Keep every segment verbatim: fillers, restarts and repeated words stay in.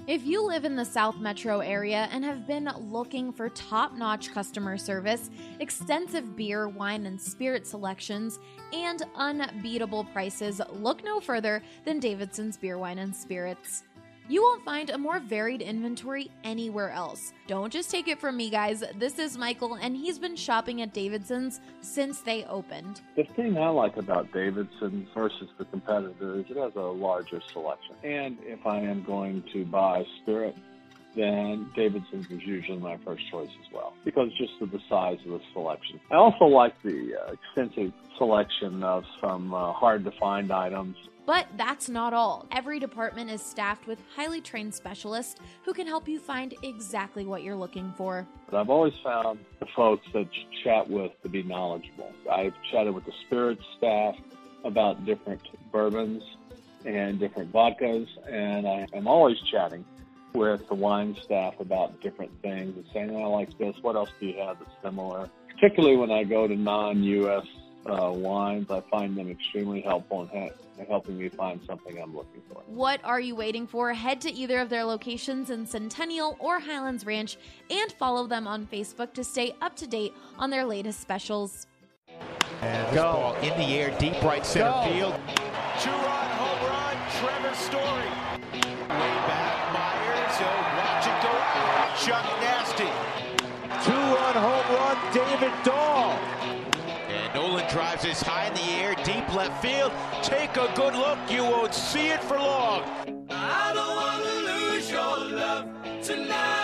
If you live in the South Metro area and have been looking for top-notch customer service, extensive beer, wine, and spirit selections, and unbeatable prices, look no further than Davidson's Beer, Wine, and Spirits. You won't find a more varied inventory anywhere else. Don't just take it from me, guys. This is Michael, and he's been shopping at Davidson's since they opened. The thing I like about Davidson's versus the competitor is it has a larger selection. And if I am going to buy spirit, then Davidson's is usually my first choice as well, because just of the size of the selection. I also like the uh, extensive selection of some uh, hard-to-find items. But that's not all. Every department is staffed with highly trained specialists who can help you find exactly what you're looking for. But I've always found the folks that you chat with to be knowledgeable. I've chatted with the spirits staff about different bourbons and different vodkas, and I am always chatting with the wine staff about different things and saying, oh, I like this, what else do you have that's similar? Particularly when I go to non-U S uh, wines, I find them extremely helpful in ha- helping me find something I'm looking for. What are you waiting for? Head to either of their locations in Centennial or Highlands Ranch and follow them on Facebook to stay up to date on their latest specials. And this ball in the air, deep right center Go. field. Two-run home run, Trevor Story. Way back, Myers, he'll watch it go out. Chuck Nasty. Two-run home run, David Dahl. And Nolan drives this high in the air, deep left field. Take a good look, you won't see it for long. I don't want to lose your love tonight.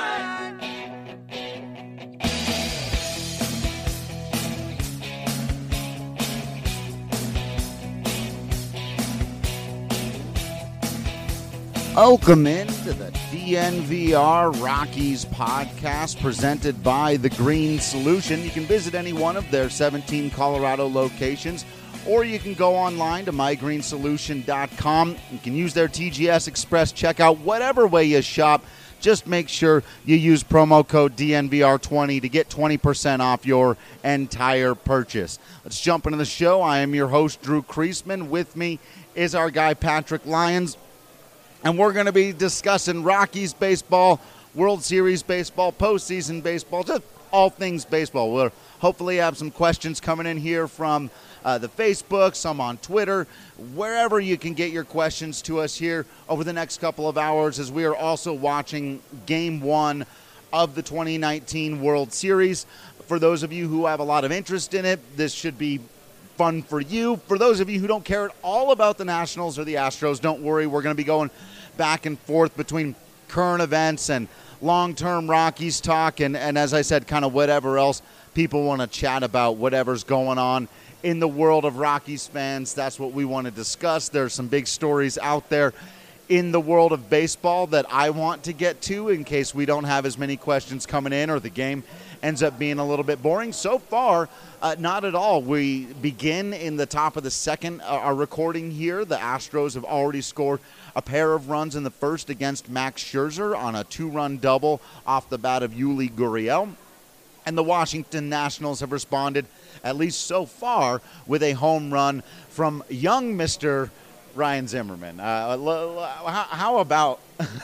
Welcome into the D N V R Rockies podcast presented by The Green Solution. You can visit any one of their seventeen Colorado locations, or you can go online to my green solution dot com. You can use their T G S Express checkout, whatever way you shop. Just make sure you use promo code D N V R twenty to get twenty percent off your entire purchase. Let's jump into the show. I am your host, Drew Kreisman. With me is our guy, Patrick Lyons. And we're going to be discussing Rockies baseball, World Series baseball, postseason baseball, just all things baseball. We'll hopefully have some questions coming in here from uh, the Facebook, some on Twitter, wherever you can get your questions to us here over the next couple of hours, as we are also watching Game one of the twenty nineteen World Series. For those of you who have a lot of interest in it, this should be fun for you. For those of you who don't care at all about the Nationals or the Astros, don't worry. We're going to be going back and forth between current events and long-term Rockies talk, and, and as I said, kind of whatever else people want to chat about, whatever's going on in the world of Rockies fans. That's what we want to discuss. There's some big stories out there in the world of baseball that I want to get to in case we don't have as many questions coming in or the game ends up being a little bit boring. So far, uh, not at all. We begin in the top of the second. Uh, our recording here, the Astros have already scored a pair of runs in the first against Max Scherzer on a two-run double off the bat of Yuli Gurriel. And the Washington Nationals have responded, at least so far, with a home run from young Mister Ryan Zimmerman. Uh, how, how about,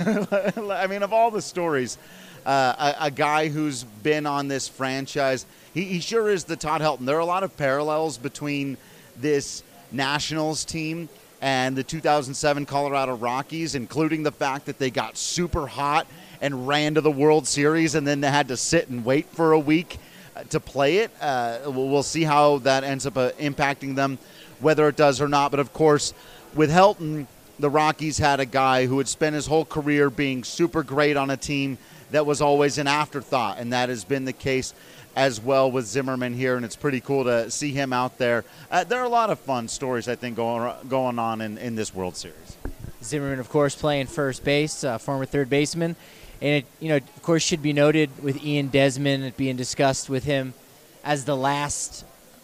I mean, of all the stories, uh, a, a guy who's been on this franchise, he, he sure is the Todd Helton. There are a lot of parallels between this Nationals team and the two thousand seven Colorado Rockies, including the fact that they got super hot and ran to the World Series and then they had to sit and wait for a week to play it. Uh, we'll see how that ends up uh, impacting them, whether it does or not. But, of course, with Helton, the Rockies had a guy who had spent his whole career being super great on a team that was always an afterthought, and that has been the case as well with Zimmerman here, and it's pretty cool to see him out there. Uh, there are a lot of fun stories, I think, going going on in, in this World Series. Zimmerman, of course, playing first base, uh, former third baseman. And, it, you know, of course, should be noted with Ian Desmond being discussed with him as the last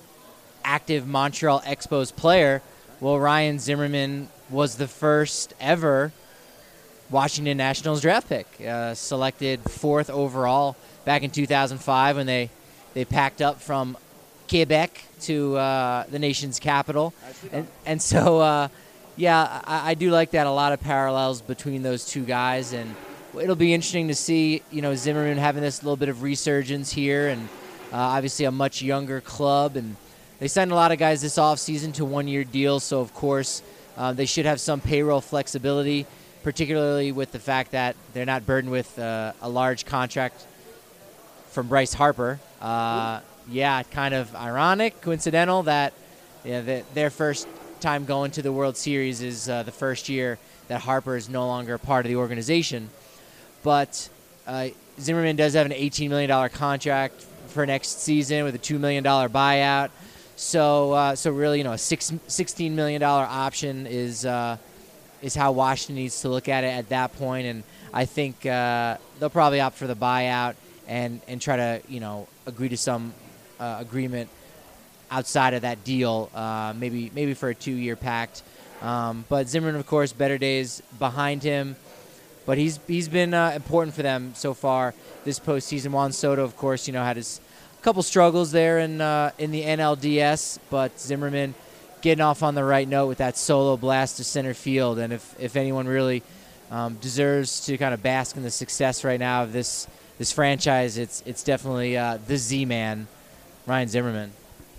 active Montreal Expos player. Well, Ryan Zimmerman was the first ever Washington Nationals draft pick, uh, selected fourth overall back in two thousand five when they, they packed up from Quebec to uh, the nation's capital. And, and so, uh, Yeah, I, I do like that. A lot of parallels between those two guys, and it'll be interesting to see, you know, Zimmerman having this little bit of resurgence here, and uh, obviously a much younger club, and they signed a lot of guys this offseason to one-year deals, so of course uh, they should have some payroll flexibility, particularly with the fact that they're not burdened with uh, a large contract from Bryce Harper. Uh, yeah, kind of ironic, coincidental that yeah, the, their first time going to the World Series is uh, the first year that Harper is no longer part of the organization. But uh, Zimmerman does have an eighteen million dollars contract for next season with a two million dollars buyout. So, uh, so really, you know, a six, sixteen million dollars option is uh, is how Washington needs to look at it at that point. And I think uh, they'll probably opt for the buyout and, and try to, you know, agree to some uh, agreement outside of that deal, uh, maybe maybe for a two-year pact. Um, but Zimmerman, of course, better days behind him. But he's he's been uh, important for them so far this postseason. Juan Soto, of course, you know, had his couple struggles there in uh, in the N L D S, but Zimmerman getting off on the right note with that solo blast to center field. And if, if anyone really um, deserves to kind of bask in the success right now of this this franchise, it's it's definitely uh, the Z-Man, Ryan Zimmerman.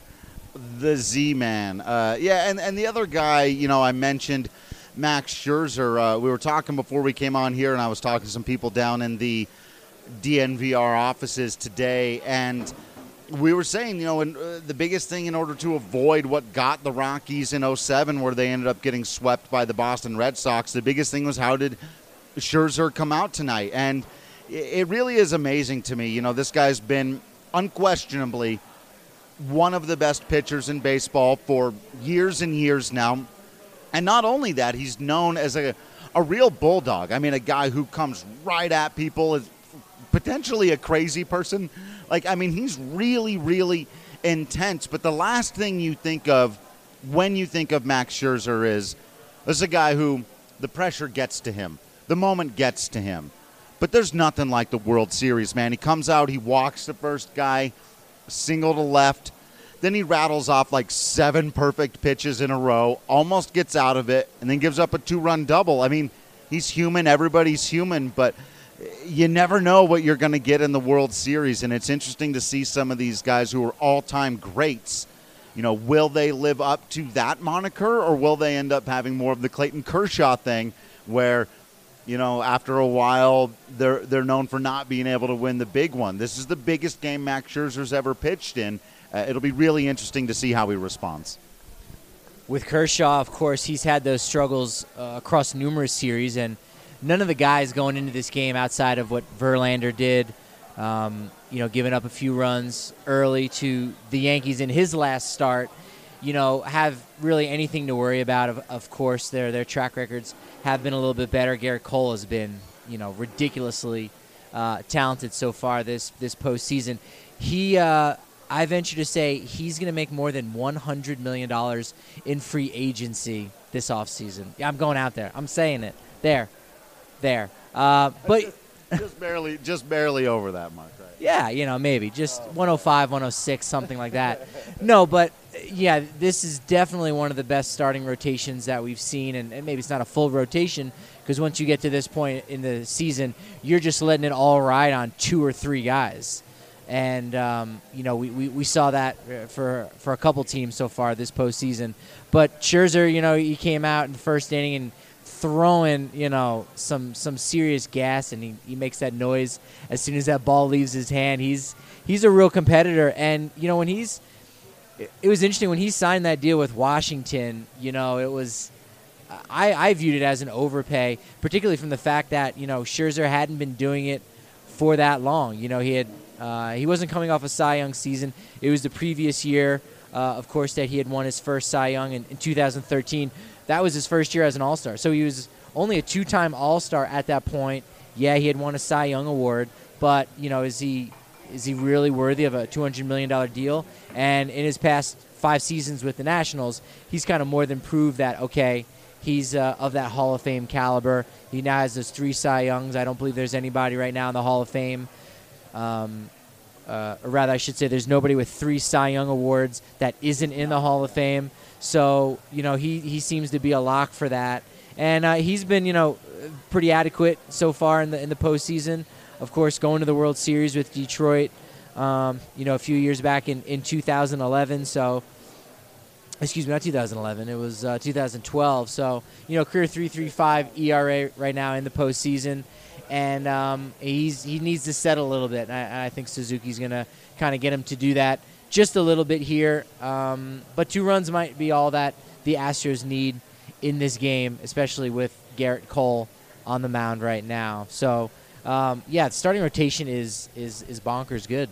The Z-Man. Uh, yeah, and, and the other guy, you know, I mentioned Max Scherzer. Uh, we were talking before we came on here, and I was talking to some people down in the D N V R offices today, and we were saying, you know, and, uh, the biggest thing in order to avoid what got the Rockies in oh seven, where they ended up getting swept by the Boston Red Sox, the biggest thing was how did Scherzer come out tonight? And it really is amazing to me. You know, this guy's been unquestionably one of the best pitchers in baseball for years and years now. And not only that, he's known as a, a real bulldog. I mean, a guy who comes right at people, is potentially a crazy person. Like, I mean, he's really, really intense. But the last thing you think of when you think of Max Scherzer is, this is a guy who the pressure gets to him. The moment gets to him. But there's nothing like the World Series, man. He comes out, he walks the first guy, single to left. Then he rattles off like seven perfect pitches in a row, almost gets out of it, and then gives up a two-run double. I mean, he's human. Everybody's human, but you never know what you're going to get in the World Series, and it's interesting to see some of these guys who are all-time greats. You know, will they live up to that moniker, or will they end up having more of the Clayton Kershaw thing where, you know, after a while, they're they're known for not being able to win the big one. This is the biggest game Max Scherzer's ever pitched in. Uh, it'll be really interesting to see how he responds. With Kershaw, of course, he's had those struggles uh, across numerous series, and none of the guys going into this game outside of what Verlander did, um, you know, giving up a few runs early to the Yankees in his last start, you know, have really anything to worry about. Of, of course, their their track records have been a little bit better. Garrett Cole has been, you know, ridiculously uh, talented so far this this postseason. He, uh, I venture to say, he's going to make more than one hundred million dollars in free agency this offseason. Yeah, I'm going out there. I'm saying it. There. There. Uh, but just, just barely just barely over that mark, right? Yeah, you know, maybe. Just one oh five, one oh six, something like that. No, but, yeah, this is definitely one of the best starting rotations that we've seen, and, and maybe it's not a full rotation because once you get to this point in the season, you're just letting it all ride on two or three guys. And, um, you know, we, we, we saw that for for a couple teams so far this postseason. But Scherzer, you know, he came out in the first inning and throwing, you know, some some serious gas, and he, he makes that noise as soon as that ball leaves his hand. He's he's a real competitor. And, you know, when he's – it was interesting when he signed that deal with Washington, you know, it was – I, I viewed it as an overpay, particularly from the fact that, you know, Scherzer hadn't been doing it for that long. You know, he had – Uh, he wasn't coming off a Cy Young season. It was the previous year, uh, of course, that he had won his first Cy Young in, in two thousand thirteen. That was his first year as an All-Star. So he was only a two-time All-Star at that point. Yeah, he had won a Cy Young award, but, you know, is he is he really worthy of a two hundred million dollars deal? And in his past five seasons with the Nationals, he's kind of more than proved that, okay, he's uh, of that Hall of Fame caliber. He now has those three Cy Youngs. I don't believe there's anybody right now in the Hall of Fame. Um, uh, or rather, I should say there's nobody with three Cy Young awards that isn't in the Hall of Fame. So, you know, he, he seems to be a lock for that. And uh, he's been, you know, pretty adequate so far in the in the postseason. Of course, going to the World Series with Detroit, um, you know, a few years back in, in two thousand eleven. So, excuse me, not two thousand eleven. It was uh, two thousand twelve. So, you know, career three point three five E R A right now in the postseason. And um, he's he needs to settle a little bit. And I, I think Suzuki's going to kind of get him to do that just a little bit here. Um, but two runs might be all that the Astros need in this game, especially with Garrett Cole on the mound right now. So, um, yeah, the starting rotation is is is bonkers good.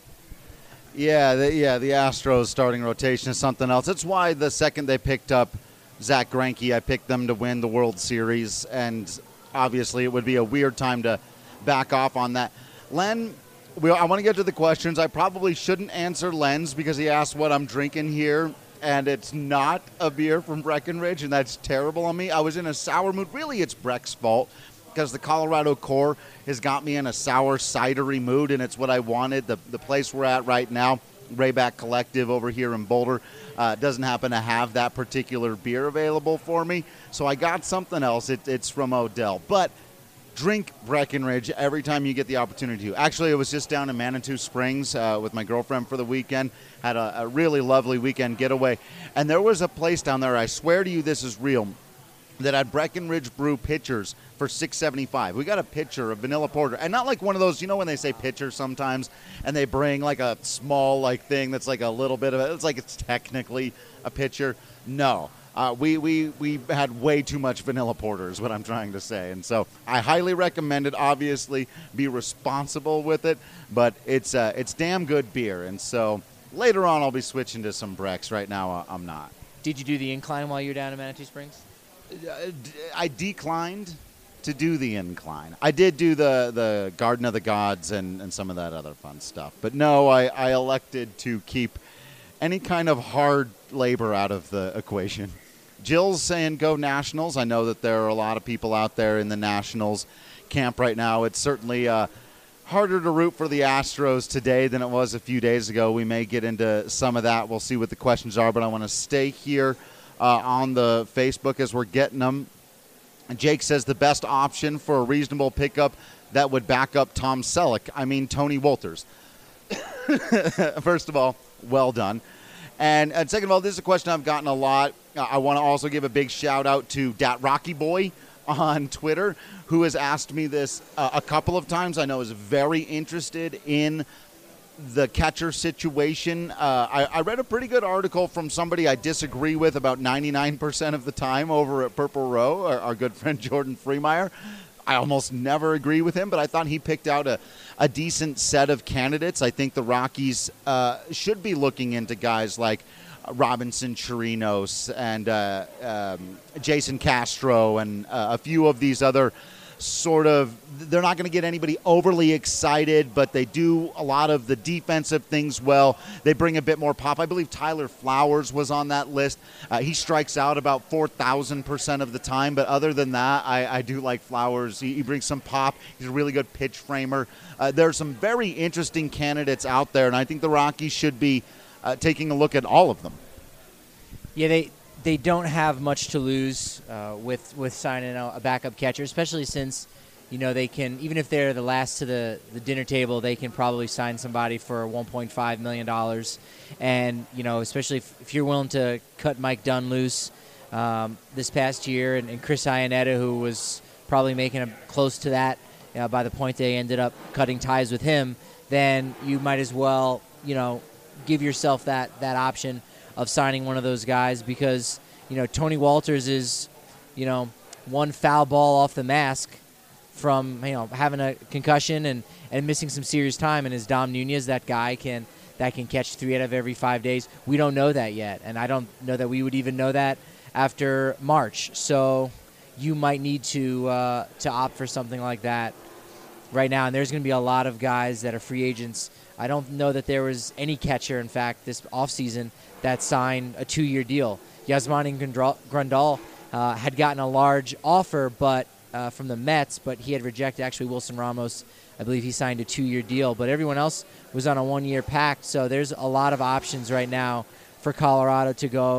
Yeah, the, yeah, the Astros starting rotation is something else. That's why the second they picked up Zach Greinke, I picked them to win the World Series, and obviously it would be a weird time to back off on that. Len, we, I want to get to the questions. I probably shouldn't answer Len's because he asked what I'm drinking here, and it's not a beer from Breckenridge, and that's terrible on me. I was in a sour mood. Really, it's Breck's fault because the Colorado Core has got me in a sour, cidery mood, and it's what I wanted. The, the place we're at right now, Rayback Collective over here in Boulder, uh, doesn't happen to have that particular beer available for me, so I got something else. It, it's from Odell. But drink Breckenridge every time you get the opportunity to. Actually, I was just down in Manitou Springs uh, with my girlfriend for the weekend. Had a, a really lovely weekend getaway. And there was a place down there, I swear to you this is real, that had Breckenridge Brew pitchers for six seventy-five. We got a pitcher of vanilla porter. And not like one of those, you know when they say pitcher sometimes, and they bring like a small like thing that's like a little bit of it. It's like it's technically a pitcher. No. Uh, we, we, we had way too much vanilla porter is what I'm trying to say. And so I highly recommend it. Obviously, be responsible with it. But it's uh, it's damn good beer. And so later on, I'll be switching to some Brecks. Right now, uh, I'm not. Did you do the incline while you were down in Manitou Springs? I declined to do the incline. I did do the, the Garden of the Gods and, and some of that other fun stuff. But no, I, I elected to keep any kind of hard labor out of the equation. Jill's saying go Nationals. I know that there are a lot of people out there in the Nationals camp right now. It's certainly uh, harder to root for the Astros today than it was a few days ago. We may get into some of that. We'll see what the questions are, but I want to stay here uh, on the Facebook as we're getting them. Jake says the best option for a reasonable pickup that would back up Tom Selleck. I mean, Tony Wolters. First of all, well done. And, and second of all, this is a question I've gotten a lot. Uh, I want to also give a big shout out to Dat Rocky Boy on Twitter, who has asked me this uh, a couple of times. I know is very interested in the catcher situation. Uh, I, I read a pretty good article from somebody I disagree with about ninety-nine percent of the time over at Purple Row, our, our good friend Jordan Freemeyer. I almost never agree with him, but I thought he picked out a, a decent set of candidates. I think the Rockies uh, should be looking into guys like Robinson Chirinos and uh, um, Jason Castro and uh, a few of these other sort of, they're not going to get anybody overly excited, but they do a lot of the defensive things well. They bring a bit more pop. I believe Tyler Flowers was on that list. Uh, he strikes out about four thousand percent of the time, but other than that, I, I do like Flowers. He, he brings some pop. He's a really good pitch framer. Uh, there are some very interesting candidates out there, and I think the Rockies should be uh, taking a look at all of them. Yeah, they they don't have much to lose uh, with with signing a backup catcher, especially since, you know, they can, even if they're the last to the, the dinner table, they can probably sign somebody for one point five million dollars. And, you know, especially if, if you're willing to cut Mike Dunn loose um, this past year, and, and Chris Iannetta, who was probably making a close to that uh, by the point they ended up cutting ties with him, then you might as well, you know, give yourself that, that option of signing one of those guys, because, you know, Tony Wolters is, you know, one foul ball off the mask from, you know, having a concussion and, and missing some serious time. And is Dom Nunez that guy can that can catch three out of every five days? We don't know that yet, and I don't know that we would even know that after March. So you might need to uh, to opt for something like that right now. And there's going to be a lot of guys that are free agents. I don't know that there was any catcher, in fact, this offseason that signed a two-year deal. Yasmani Grandal uh, had gotten a large offer but uh, from the Mets, but he had rejected. Actually, Wilson Ramos, I believe he signed a two-year deal. But everyone else was on a one-year pact, so there's a lot of options right now for Colorado to go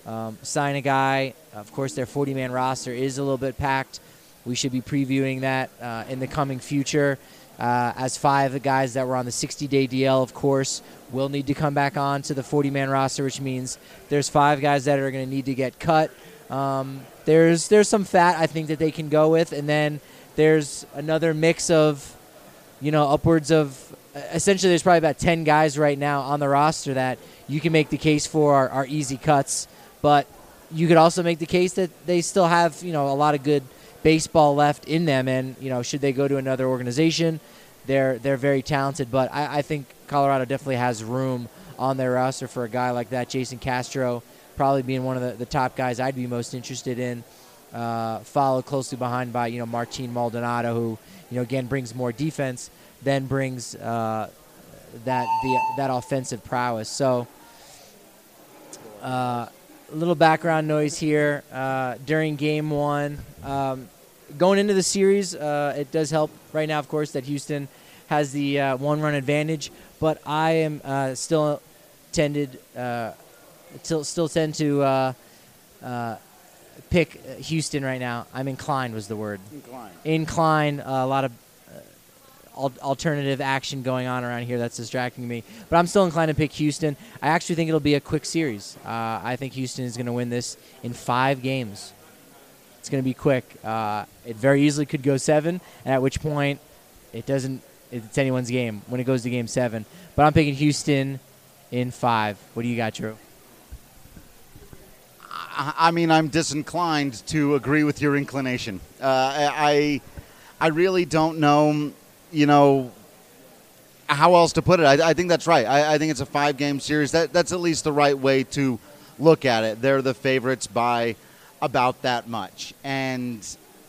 um, sign a guy. Of course, their forty-man roster is a little bit packed. We should be previewing that uh, in the coming future. Uh, as five of the guys that were on the sixty-day D L, of course, will need to come back on to the forty-man roster, which means there's five guys that are going to need to get cut. Um, there's there's some fat I think that they can go with, and then there's another mix of, you know, upwards of essentially there's probably about ten guys right now on the roster that you can make the case for are, are easy cuts, but you could also make the case that they still have, you know, a lot of good baseball left in them, and you know, should they go to another organization, they're they're very talented. But I, I think Colorado definitely has room on their roster for a guy like that. Jason Castro probably being one of the, the top guys I'd be most interested in, uh, followed closely behind by, you know, Martin Maldonado, who, you know, again brings more defense, then brings uh, that the that offensive prowess. So uh, a little background noise here uh, during game one. Um, going into the series, uh, it does help right now, of course, that Houston has the uh, one-run advantage. But I am uh, still tended, uh, still still tend to uh, uh, pick Houston right now. I'm inclined was the word. Inclined. Inclined. Uh, a lot of uh, al- alternative action going on around here that's distracting me. But I'm still inclined to pick Houston. I actually think it'll be a quick series. Uh, I think Houston is going to win this in five games. It's going to be quick. Uh, it very easily could go seven, and at which point it doesn't. It's anyone's game when it goes to game seven. But I'm picking Houston in five. What do you got, Drew? I, I mean, I'm disinclined to agree with your inclination. Uh, I, I really don't know, you know, how else to put it. I, I think that's right. I, I think it's a five-game series. That that's at least the right way to look at it. They're the favorites by about that much. And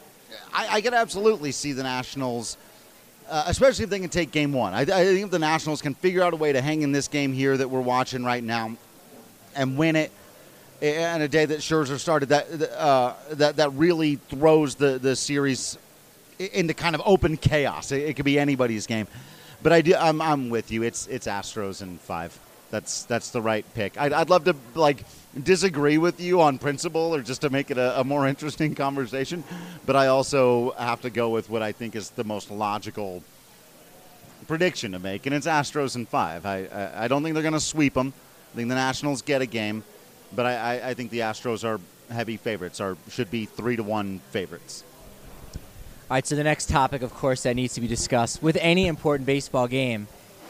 I, I could absolutely see the Nationals, uh, especially if they can take game one. I, I think if the Nationals can figure out a way to hang in this game here that we're watching right now and win it on a day that Scherzer started, that uh, that that really throws the, the series into kind of open chaos. It, it could be anybody's game. But I do, I'm, I'm with you. It's it's Astros in five. That's that's the right pick. I'd, I'd love to, like, disagree with you on principle or just to make it a, a more interesting conversation, but I also have to go with what I think is the most logical prediction to make, and it's Astros in five. I I, I don't think they're going to sweep them. I think the Nationals get a game, but I, I, I think the Astros are heavy favorites, or should be three to one favorites. All right, so the next topic, of course, that needs to be discussed with any important baseball game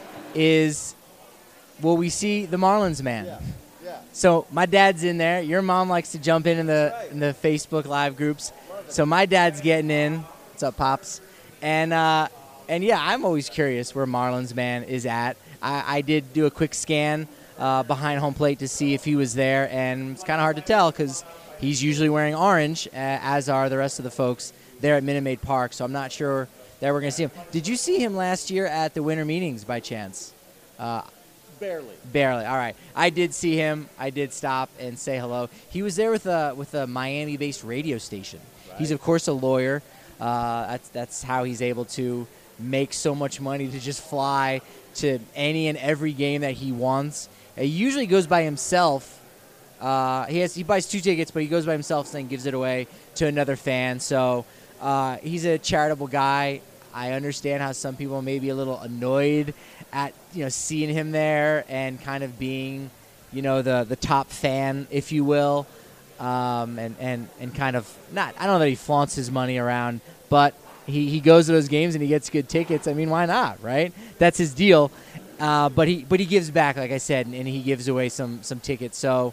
is, will we see the Marlins man? Yeah. Yeah. So my dad's in there. Your mom likes to jump in in the right. in the Facebook Live groups. So my dad's getting in. What's up, Pops? And uh, and yeah, I'm always curious where Marlins man is at. I, I did do a quick scan uh, behind home plate to see if he was there, and it's kind of hard to tell because he's usually wearing orange, uh, as are the rest of the folks there at Minute Maid Park. So I'm not sure that we're going to see him. Did you see him last year at the winter meetings by chance? Uh, Barely. Barely. All right. I did see him. I did stop and say hello. He was there with a with a Miami-based radio station. Right. He's of course a lawyer. Uh, that's that's how he's able to make so much money to just fly to any and every game that he wants. He usually goes by himself. Uh, he has he buys two tickets, but he goes by himself and then gives it away to another fan. So uh, he's a charitable guy. I understand how some people may be a little annoyed at, you know, seeing him there and kind of being, you know, the, the top fan, if you will, um, and, and, and kind of not, I don't know that he flaunts his money around, but he, he goes to those games and he gets good tickets. I mean, why not, right? That's his deal. Uh, but he but he gives back, like I said, and, and he gives away some, some tickets. So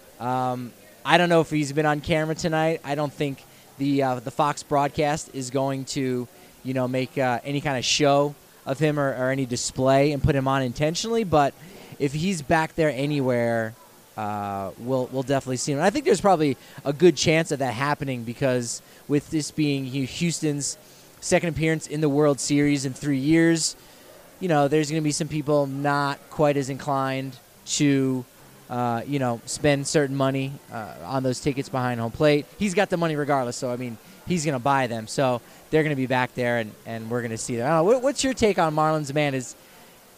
um, I don't know if he's been on camera tonight. I don't think the uh, the Fox broadcast is going to, you know, make uh, any kind of show of him or, or any display and put him on intentionally. But if he's back there anywhere, uh, we'll we'll definitely see him. And I think there's probably a good chance of that happening because with this being Houston's second appearance in the World Series in three years, you know, there's going to be some people not quite as inclined to, uh, you know, spend certain money uh, on those tickets behind home plate. He's got the money regardless, so, I mean, he's going to buy them. So they're going to be back there, and, and we're going to see them. I don't know, what, what's your take on Marlins man? Is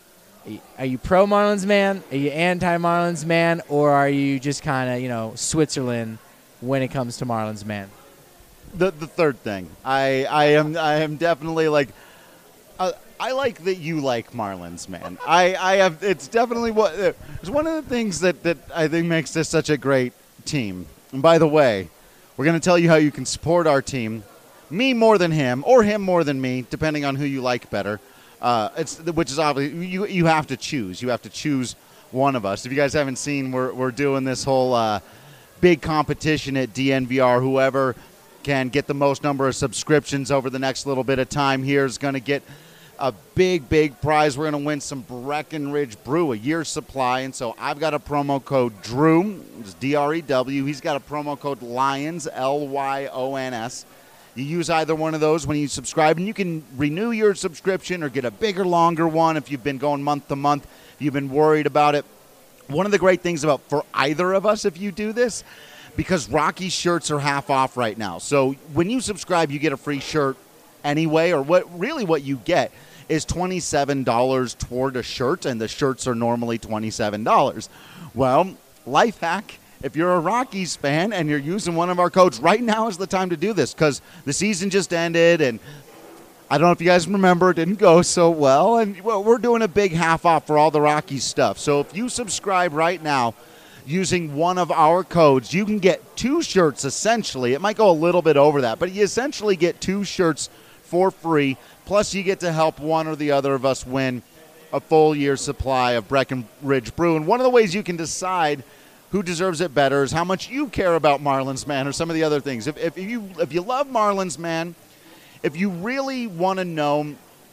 Are you pro Marlins man? Are you anti Marlins man? Or are you just kind of, you know, Switzerland when it comes to Marlins man? The the third thing. I I am I am definitely like uh, I like that you like Marlins, man. I, I have it's definitely what it's one of the things that, that I think makes this such a great team. And by the way, we're going to tell you how you can support our team. Me more than him, or him more than me, depending on who you like better. Uh, it's which is obviously you you have to choose. You have to choose one of us. If you guys haven't seen, we're we're doing this whole uh, big competition at D N V R. Whoever can get the most number of subscriptions over the next little bit of time here is going to get a big, big prize. We're going to win some Breckenridge Brew, a year's supply. And so I've got a promo code Drew, it's D R E W. He's got a promo code Lyons, L Y O N S. You use either one of those when you subscribe, and you can renew your subscription or get a bigger, longer one if you've been going month to month, if you've been worried about it. One of the great things about for either of us, if you do this, because Rocky's shirts are half off right now. So when you subscribe, you get a free shirt anyway, or what really what you get is twenty-seven dollars toward a shirt, and the shirts are normally twenty-seven dollars. Well, life hack. If you're a Rockies fan and you're using one of our codes, right now is the time to do this because the season just ended, and I don't know if you guys remember, it didn't go so well, and well, we're doing a big half off for all the Rockies stuff. So if you subscribe right now using one of our codes, you can get two shirts essentially. It might go a little bit over that, but you essentially get two shirts for free, plus you get to help one or the other of us win a full year's supply of Breckenridge Brew. And one of the ways you can decide who deserves it better is how much you care about Marlins Man or some of the other things. If, if you if you love Marlins Man, if you really want to know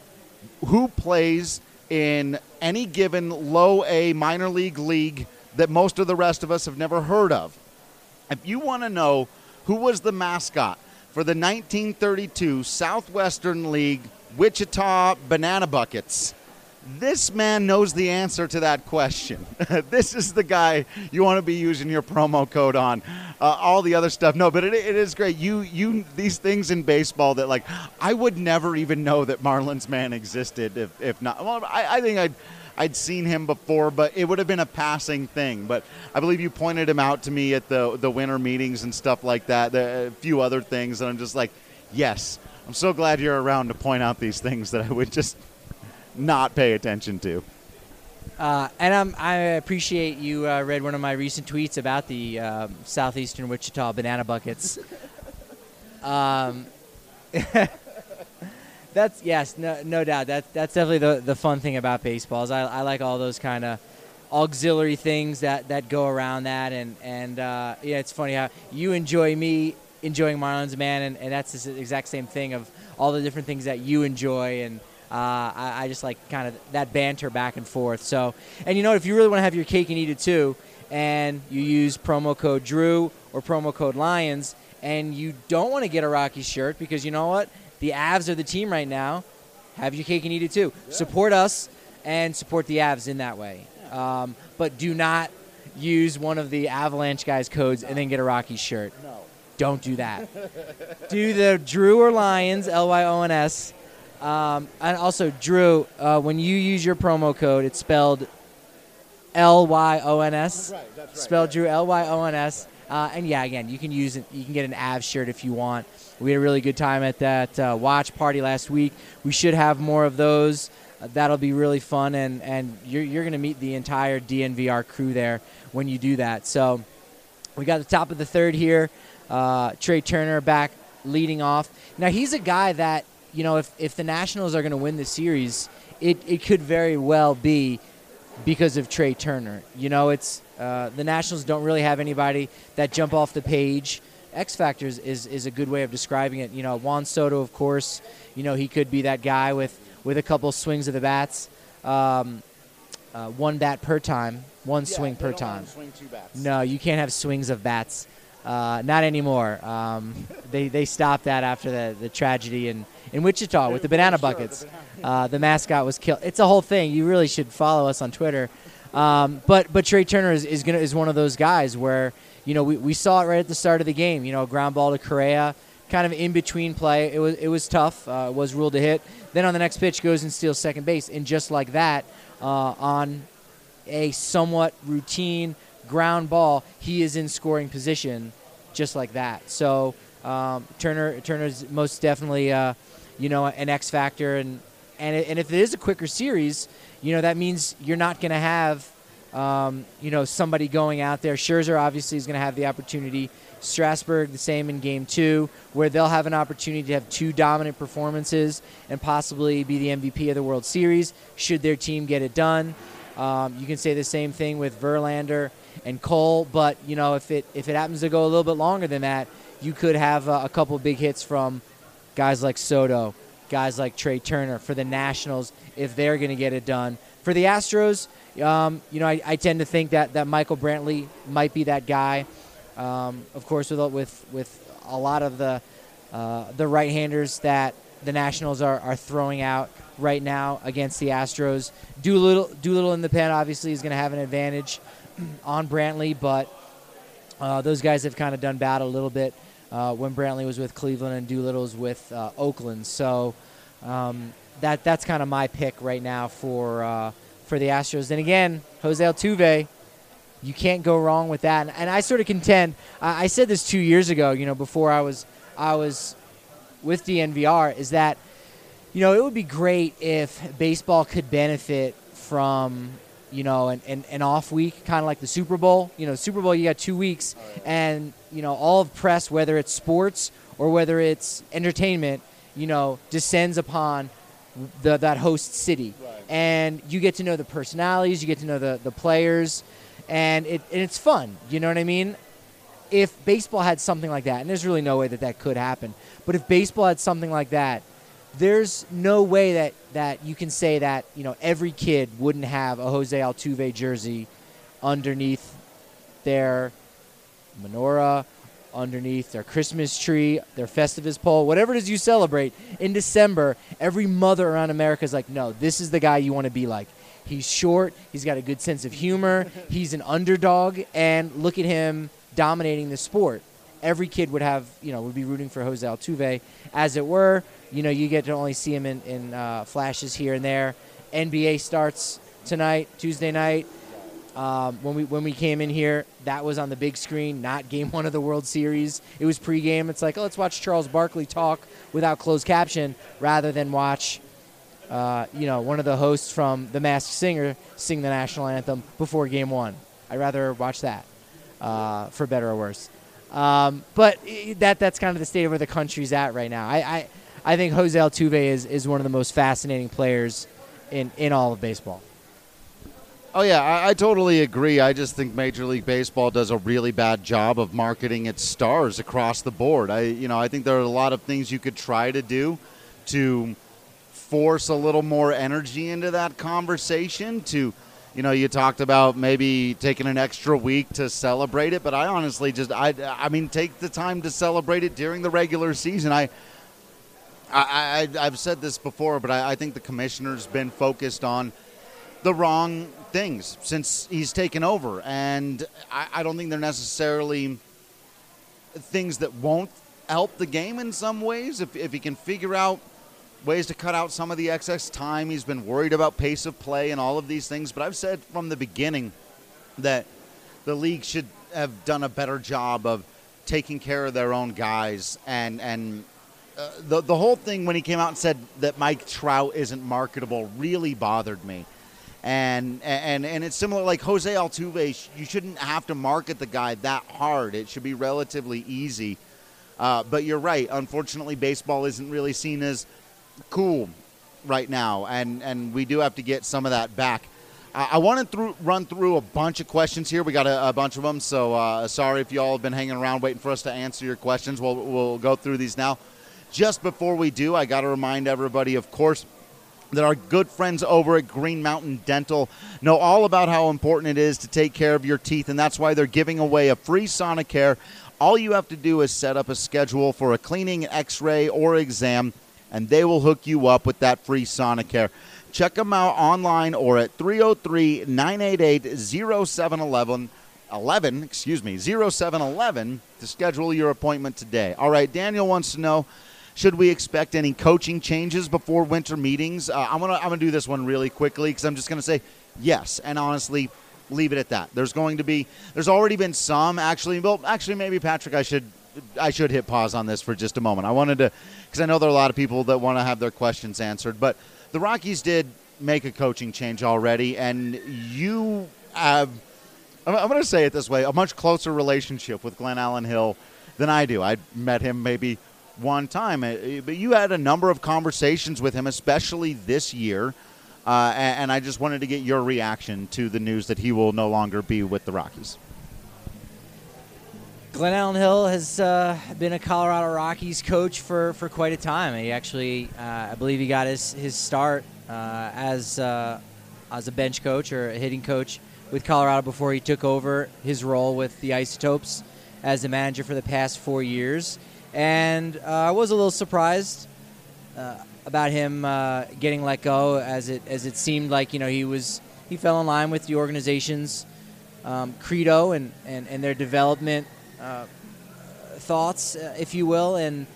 who plays in any given low A minor league league that most of the rest of us have never heard of, if you want to know who was the mascot for the nineteen thirty-two Southwestern League Wichita Banana Buckets, this man knows the answer to that question. This is the guy you want to be using your promo code on. Uh, all the other stuff, no, but it, it is great. You, you, these things in baseball that, like, I would never even know that Marlins Man existed if, if not. Well, I, I think I'd, I'd seen him before, but it would have been a passing thing. But I believe you pointed him out to me at the the winter meetings and stuff like that. There are a few other things, and I'm just like, yes, I'm so glad you're around to point out these things that I would just not pay attention to. Uh, and I'm, I appreciate you uh, read one of my recent tweets about the uh, Southeastern Wichita Banana Buckets. um, that's yes, no, no doubt. That's that's definitely the the fun thing about baseball. Is I, I like all those kind of auxiliary things that, that go around that, and and uh, yeah, it's funny how you enjoy me enjoying Marlins Man, and, and that's the exact same thing of all the different things that you enjoy. And Uh, I, I just like kind of that banter back and forth. So, and you know, if you really want to have your cake and eat it too, and you use promo code Drew or promo code Lyons, and you don't want to get a Rockies shirt because you know what? The Avs are the team right now. Have your cake and eat it too. Yeah. Support us and support the Avs in that way. Um, but do not use one of the Avalanche guys' codes and then get a Rockies shirt. No. Don't do that. Do the Drew or Lyons, L Y O N S. Um, and also, Drew, uh, when you use your promo code, it's spelled L Y O N S. That's right, that's right. Spelled yeah. Drew, L Y O N S. Uh, and yeah, again, you can use it. You can get an Avs shirt if you want. We had a really good time at that uh, watch party last week. We should have more of those. Uh, that'll be really fun, and, and you're, you're going to meet the entire D N V R crew there when you do that. So we got the top of the third here. Uh, Trey Turner back leading off. Now, he's a guy that, you know, if, if the Nationals are going to win the series, it, it could very well be because of Trey Turner. You know, it's uh, the Nationals don't really have anybody that jump off the page. X Factors is, is a good way of describing it. You know, Juan Soto, of course, you know, he could be that guy with, with a couple swings of the bats. Um, uh, one bat per time, one Yeah, swing they per don't time. want to swing two bats. No, you can't have swings of bats. Uh, not anymore. Um, they they stopped that after the, the tragedy in, in Wichita with the banana buckets. Uh, the mascot was killed. It's a whole thing. You really should follow us on Twitter. Um, but but Trey Turner is is, gonna, is one of those guys where, you know, we, we saw it right at the start of the game. You know, ground ball to Correa. kind of in between play. It was it was tough. Uh, it was ruled a hit. Then on the next pitch goes and steals second base, and just like that, uh, on a somewhat routine ground ball, he is in scoring position, just like that. So um, Turner Turner's most definitely uh, you know an X factor, and and it, and if it is a quicker series, you know that means you're not going to have um, you know somebody going out there. Scherzer obviously is going to have the opportunity. Strasburg the same in game two, where they'll have an opportunity to have two dominant performances and possibly be the M V P of the World Series should their team get it done. Um, you can say the same thing with Verlander and Cole, but you know if it if it happens to go a little bit longer than that, you could have uh, a couple big hits from guys like Soto, guys like Trey Turner for the Nationals if they're going to get it done. For the Astros, um, you know I, I tend to think that, that Michael Brantley might be that guy. Um, of course, with with with a lot of the uh, the right-handers that the Nationals are, are throwing out right now against the Astros, Doolittle Doolittle in the pen obviously is going to have an advantage on Brantley, but uh, those guys have kind of done battle a little bit uh, when Brantley was with Cleveland and Doolittle's with uh, Oakland. So um, that that's kind of my pick right now for uh, for the Astros. And again, Jose Altuve. You can't go wrong with that, and, and I sort of contend. I, I said this two years ago, you know, before I was I was with D N V R, is that you know it would be great if baseball could benefit from you know an, an, an off week, kind of like the Super Bowl. You know, Super Bowl you got two weeks, and you know all of press, whether it's sports or whether it's entertainment, you know, descends upon the, that host city, right. And you get to know the personalities, you get to know the the players. And, it, and it's fun, you know what I mean? If baseball had something like that, and there's really no way that that could happen, but if baseball had something like that, there's no way that, that you can say that, you know, every kid wouldn't have a Jose Altuve jersey underneath their menorah, underneath their Christmas tree, their Festivus pole, whatever it is you celebrate. In December, every mother around America is like, no, this is the guy you want to be like. He's short. He's got a good sense of humor. He's an underdog. And look at him dominating the sport. Every kid would have, you know, would be rooting for Jose Altuve, as it were. You know, you get to only see him in, in uh, flashes here and there. N B A starts tonight, Tuesday night. Um, when we when we came in here, that was on the big screen, not game one of the World Series. It was pregame. It's like, oh, let's watch Charles Barkley talk without closed caption rather than watch Uh, you know, one of the hosts from The Masked Singer sing the national anthem before game one. I'd rather watch that, uh, for better or worse. Um, but that that's kind of the state of where the country's at right now. I I, I think Jose Altuve is, is one of the most fascinating players in, in all of baseball. Oh, yeah, I, I totally agree. I just think Major League Baseball does a really bad job of marketing its stars across the board. I, you know, I think there are a lot of things you could try to do to force a little more energy into that conversation. To, you know, you talked about maybe taking an extra week to celebrate it, but I honestly just, I, I mean, take the time to celebrate it during the regular season. I, I, I I've said this before, but I, I think the commissioner's been focused on the wrong things since he's taken over, and I, I don't think they're necessarily things that won't help the game in some ways. If if he can figure out ways to cut out some of the excess time. He's been worried about pace of play and all of these things. But I've said from the beginning that the league should have done a better job of taking care of their own guys. And and uh, the the whole thing when he came out and said that Mike Trout isn't marketable really bothered me. And and and it's similar, like Jose Altuve, you shouldn't have to market the guy that hard. It should be relatively easy. Uh, but you're right. Unfortunately, baseball isn't really seen as cool right now, and and we do have to get some of that back. I, I want to through, run through a bunch of questions here. We got a, a bunch of them, so uh, sorry if you all have been hanging around waiting for us to answer your questions. We'll we'll go through these now. Just before we do, I got to remind everybody, of course, that our good friends over at Green Mountain Dental know all about how important it is to take care of your teeth, and that's why they're giving away a free Sonicare. All you have to do is set up a schedule for a cleaning, x-ray, or exam, and they will hook you up with that free Sonicare. Check them out online or at three oh three, nine eight eight, oh seven one one eleven, excuse me, zero seven eleven to schedule your appointment today. All right, Daniel wants to know, should we expect any coaching changes before winter meetings? Uh, I'm gonna I'm gonna do this one really quickly because I'm just gonna say yes, and honestly, leave it at that. There's going to be, there's already been some actually. Well, actually, maybe Patrick, I should I should hit pause on this for just a moment. I wanted to, because I know there are a lot of people that want to have their questions answered, but the Rockies did make a coaching change already, and you have, I'm going to say it this way, a much closer relationship with Glenn Allen Hill than I do. I met him maybe one time, but you had a number of conversations with him, especially this year, uh, and I just wanted to get your reaction to the news that he will no longer be with the Rockies. Glenn Allen Hill has uh, been a Colorado Rockies coach for, for quite a time. He actually, uh, I believe he got his, his start uh, as, uh, as a bench coach or a hitting coach with Colorado before he took over his role with the Isotopes as the manager for the past four years. And uh, I was a little surprised uh, about him uh, getting let go, as it as it seemed like, you know, he was he fell in line with the organization's um, credo and, and, and their development uh, thoughts, uh, if you will, and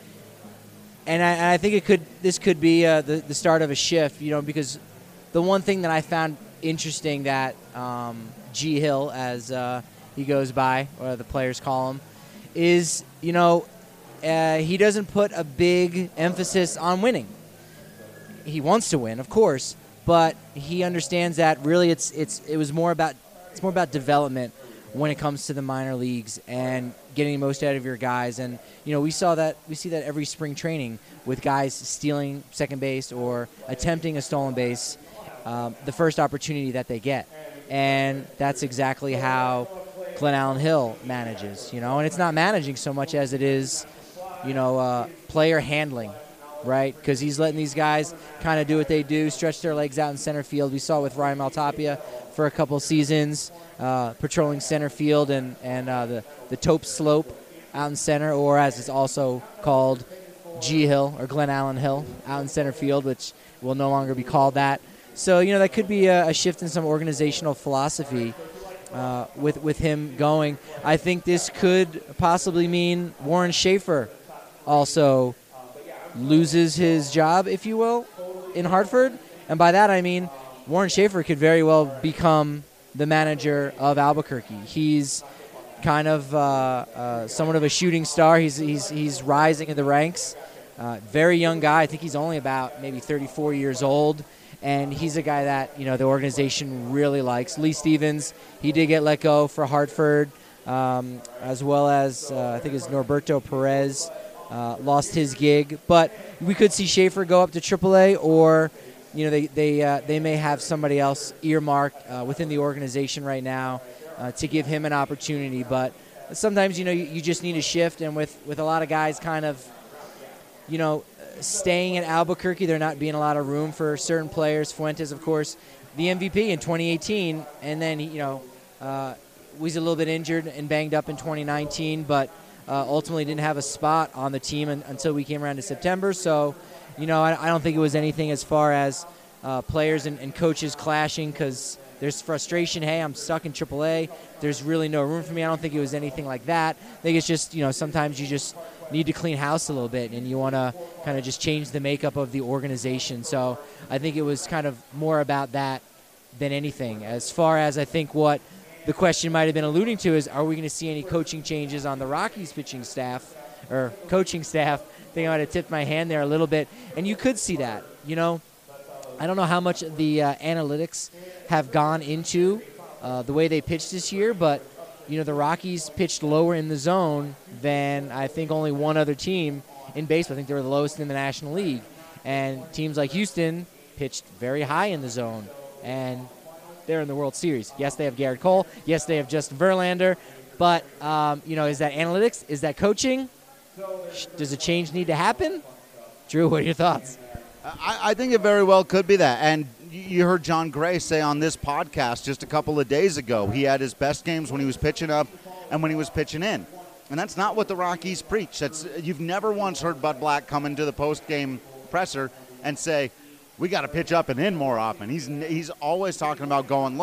and I, and I think it could this could be uh, the the start of a shift, you know, because the one thing that I found interesting that um, G Hill, as uh, he goes by, or the players call him, is, you know, uh, he doesn't put a big emphasis on winning. He wants to win, of course, but he understands that really it's it's it was more about it's more about development when it comes to the minor leagues and getting the most out of your guys. And you know, we saw that we see that every spring training with guys stealing second base or attempting a stolen base um, the first opportunity that they get, and that's exactly how Glenn Allen Hill manages. You know, and it's not managing so much as it is, you know, uh, player handling. Right, because he's letting these guys kind of do what they do, stretch their legs out in center field. We saw with Ryan Maltapia for a couple seasons, uh, patrolling center field and, and uh, the, the Taupe Slope out in center, or as it's also called, G Hill or Glenn Allen Hill out in center field, which will no longer be called that. So, you know, that could be a, a shift in some organizational philosophy uh, with, with him going. I think this could possibly mean Warren Schaefer also loses his job, if you will, in Hartford. And by that I mean Warren Schaefer could very well become the manager of Albuquerque. He's kind of uh, uh, somewhat of a shooting star. He's he's he's rising in the ranks. Uh, very young guy. I think he's only about maybe thirty-four years old. And he's a guy that, you know, the organization really likes. Lee Stevens, he did get let go for Hartford, um, as well as uh, I think it's Norberto Perez. Uh, lost his gig, but we could see Schaefer go up to triple A, or, you know, they they uh, they may have somebody else earmarked uh, within the organization right now uh, to give him an opportunity. But sometimes, you know, you, you just need a shift, and with, with a lot of guys kind of, you know, staying in Albuquerque, there not being a lot of room for certain players. Fuentes, of course, the M V P in twenty eighteen, and then, you know, uh, was a little bit injured and banged up in twenty nineteen, but Uh, ultimately didn't have a spot on the team un- until we came around to September. So, you know, I, I don't think it was anything as far as uh, players and, and coaches clashing, because there's frustration. Hey, I'm stuck in triple A. There's really no room for me. I don't think it was anything like that. I think it's just, you know, sometimes you just need to clean house a little bit, and you want to kind of just change the makeup of the organization. So I think it was kind of more about that than anything. As far as I think what the question might have been alluding to is, are we going to see any coaching changes on the Rockies pitching staff or coaching staff? I think I might have tipped my hand there a little bit. And you could see that. You know, I don't know how much the uh, analytics have gone into uh, the way they pitched this year, but, you know, the Rockies pitched lower in the zone than I think only one other team in baseball. I think they were the lowest in the National League. And teams like Houston pitched very high in the zone. And they're in the World Series. Yes, they have Garrett Cole. Yes, they have Justin Verlander. But, um, you know, is that analytics? Is that coaching? Does a change need to happen? Drew, what are your thoughts? I, I think it very well could be that. And you heard John Gray say on this podcast just a couple of days ago, he had his best games when he was pitching up and when he was pitching in. And that's not what the Rockies preach. That's, you've never once heard Bud Black come into the post-game presser and say, we got to pitch up and in more often. He's he's always talking about going low.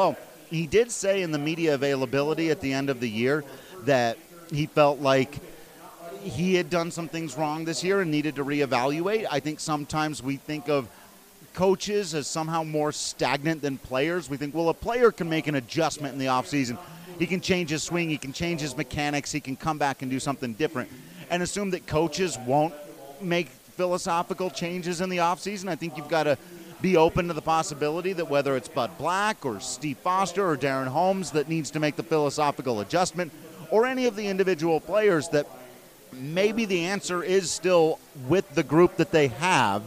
he did say in the media availability at the end of the year that he felt like he had done some things wrong this year and needed to reevaluate. I think sometimes we think of coaches as somehow more stagnant than players. We think, well, a player can make an adjustment in the offseason. He can change his swing. He can change his mechanics. He can come back and do something different, and assume that coaches won't make philosophical changes in the offseason. I think you've got to be open to the possibility that whether it's Bud Black or Steve Foster or Darren Holmes that needs to make the philosophical adjustment, or any of the individual players, that maybe the answer is still with the group that they have.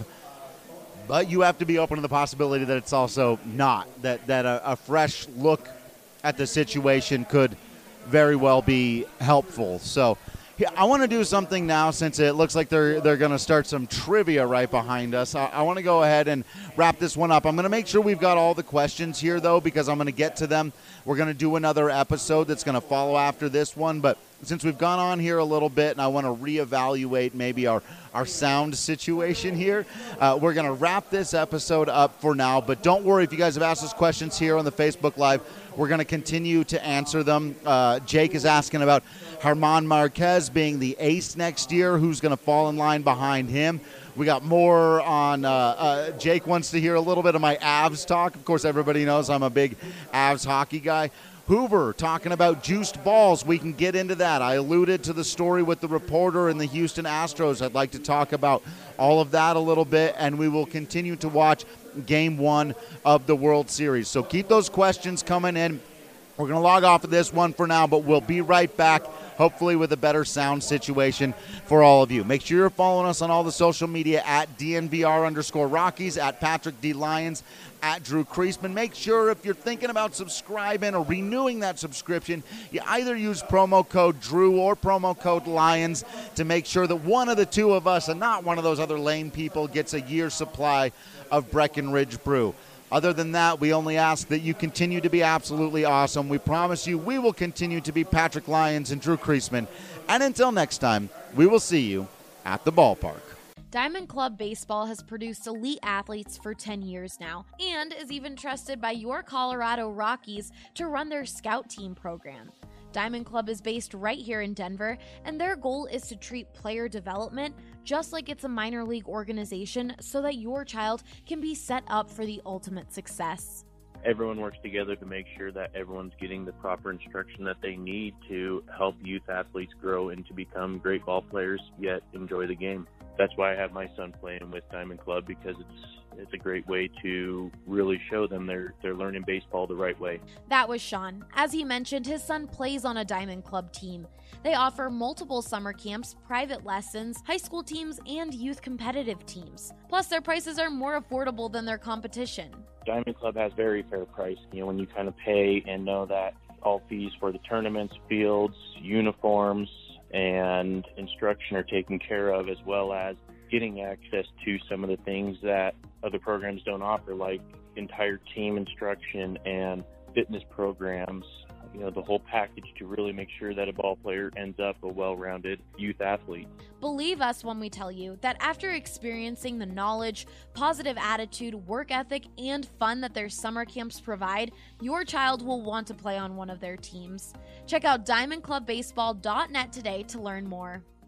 But you have to be open to the possibility that it's also not, that, that a, a fresh look at the situation could very well be helpful. So yeah, I want to do something now, since it looks like they're they're going to start some trivia right behind us. I, I want to go ahead and wrap this one up. I'm going to make sure we've got all the questions here, though, because I'm going to get to them. We're going to do another episode that's going to follow after this one, but since we've gone on here a little bit and I want to reevaluate maybe our, our sound situation here, uh, we're going to wrap this episode up for now. But don't worry, if you guys have asked us questions here on the Facebook Live, we're going to continue to answer them. Uh, Jake is asking about German Marquez being the ace next year. Who's going to fall in line behind him? We got more on uh, uh, Jake wants to hear a little bit of my Avs talk. Of course, everybody knows I'm a big Avs hockey guy. Hoover talking about juiced balls. We can get into that. I alluded to the story with the reporter and the Houston Astros. I'd like to talk about all of that a little bit, and we will continue to watch game one of the World Series. So keep those questions coming in. We're going to log off of this one for now, but we'll be right back, hopefully with a better sound situation for all of you. Make sure you're following us on all the social media at D N V R underscore Rockies, at Patrick D. Lyons, at Drew Creasman. Make sure if you're thinking about subscribing or renewing that subscription, you either use promo code Drew or promo code Lyons to make sure that one of the two of us, and not one of those other lame people, gets a year's supply of Breckenridge Brew. Other than that, we only ask that you continue to be absolutely awesome. We promise you we will continue to be Patrick Lyons and Drew Creasman. And until next time, we will see you at the ballpark. Diamond Club Baseball has produced elite athletes for ten years now and is even trusted by your Colorado Rockies to run their scout team program. Diamond Club is based right here in Denver, and their goal is to treat player development just like it's a minor league organization so that your child can be set up for the ultimate success. Everyone works together to make sure that everyone's getting the proper instruction that they need to help youth athletes grow and to become great ball players, yet enjoy the game. That's why I have my son playing with Diamond Club, because it's it's a great way to really show them they're they're learning baseball the right way. That was Sean. As he mentioned, his son plays on a Diamond Club team. They offer multiple summer camps, private lessons, high school teams, and youth competitive teams. Plus, their prices are more affordable than their competition. Diamond Club has very fair price. You know, when you kind of pay and know that all fees for the tournaments, fields, uniforms, and instruction are taken care of, as well as getting access to some of the things that other programs don't offer, like entire team instruction and fitness programs, you know, the whole package to really make sure that a ball player ends up a well-rounded youth athlete. Believe us when we tell you that after experiencing the knowledge, positive attitude, work ethic, and fun that their summer camps provide, your child will want to play on one of their teams. Check out diamond club baseball dot net today to learn more.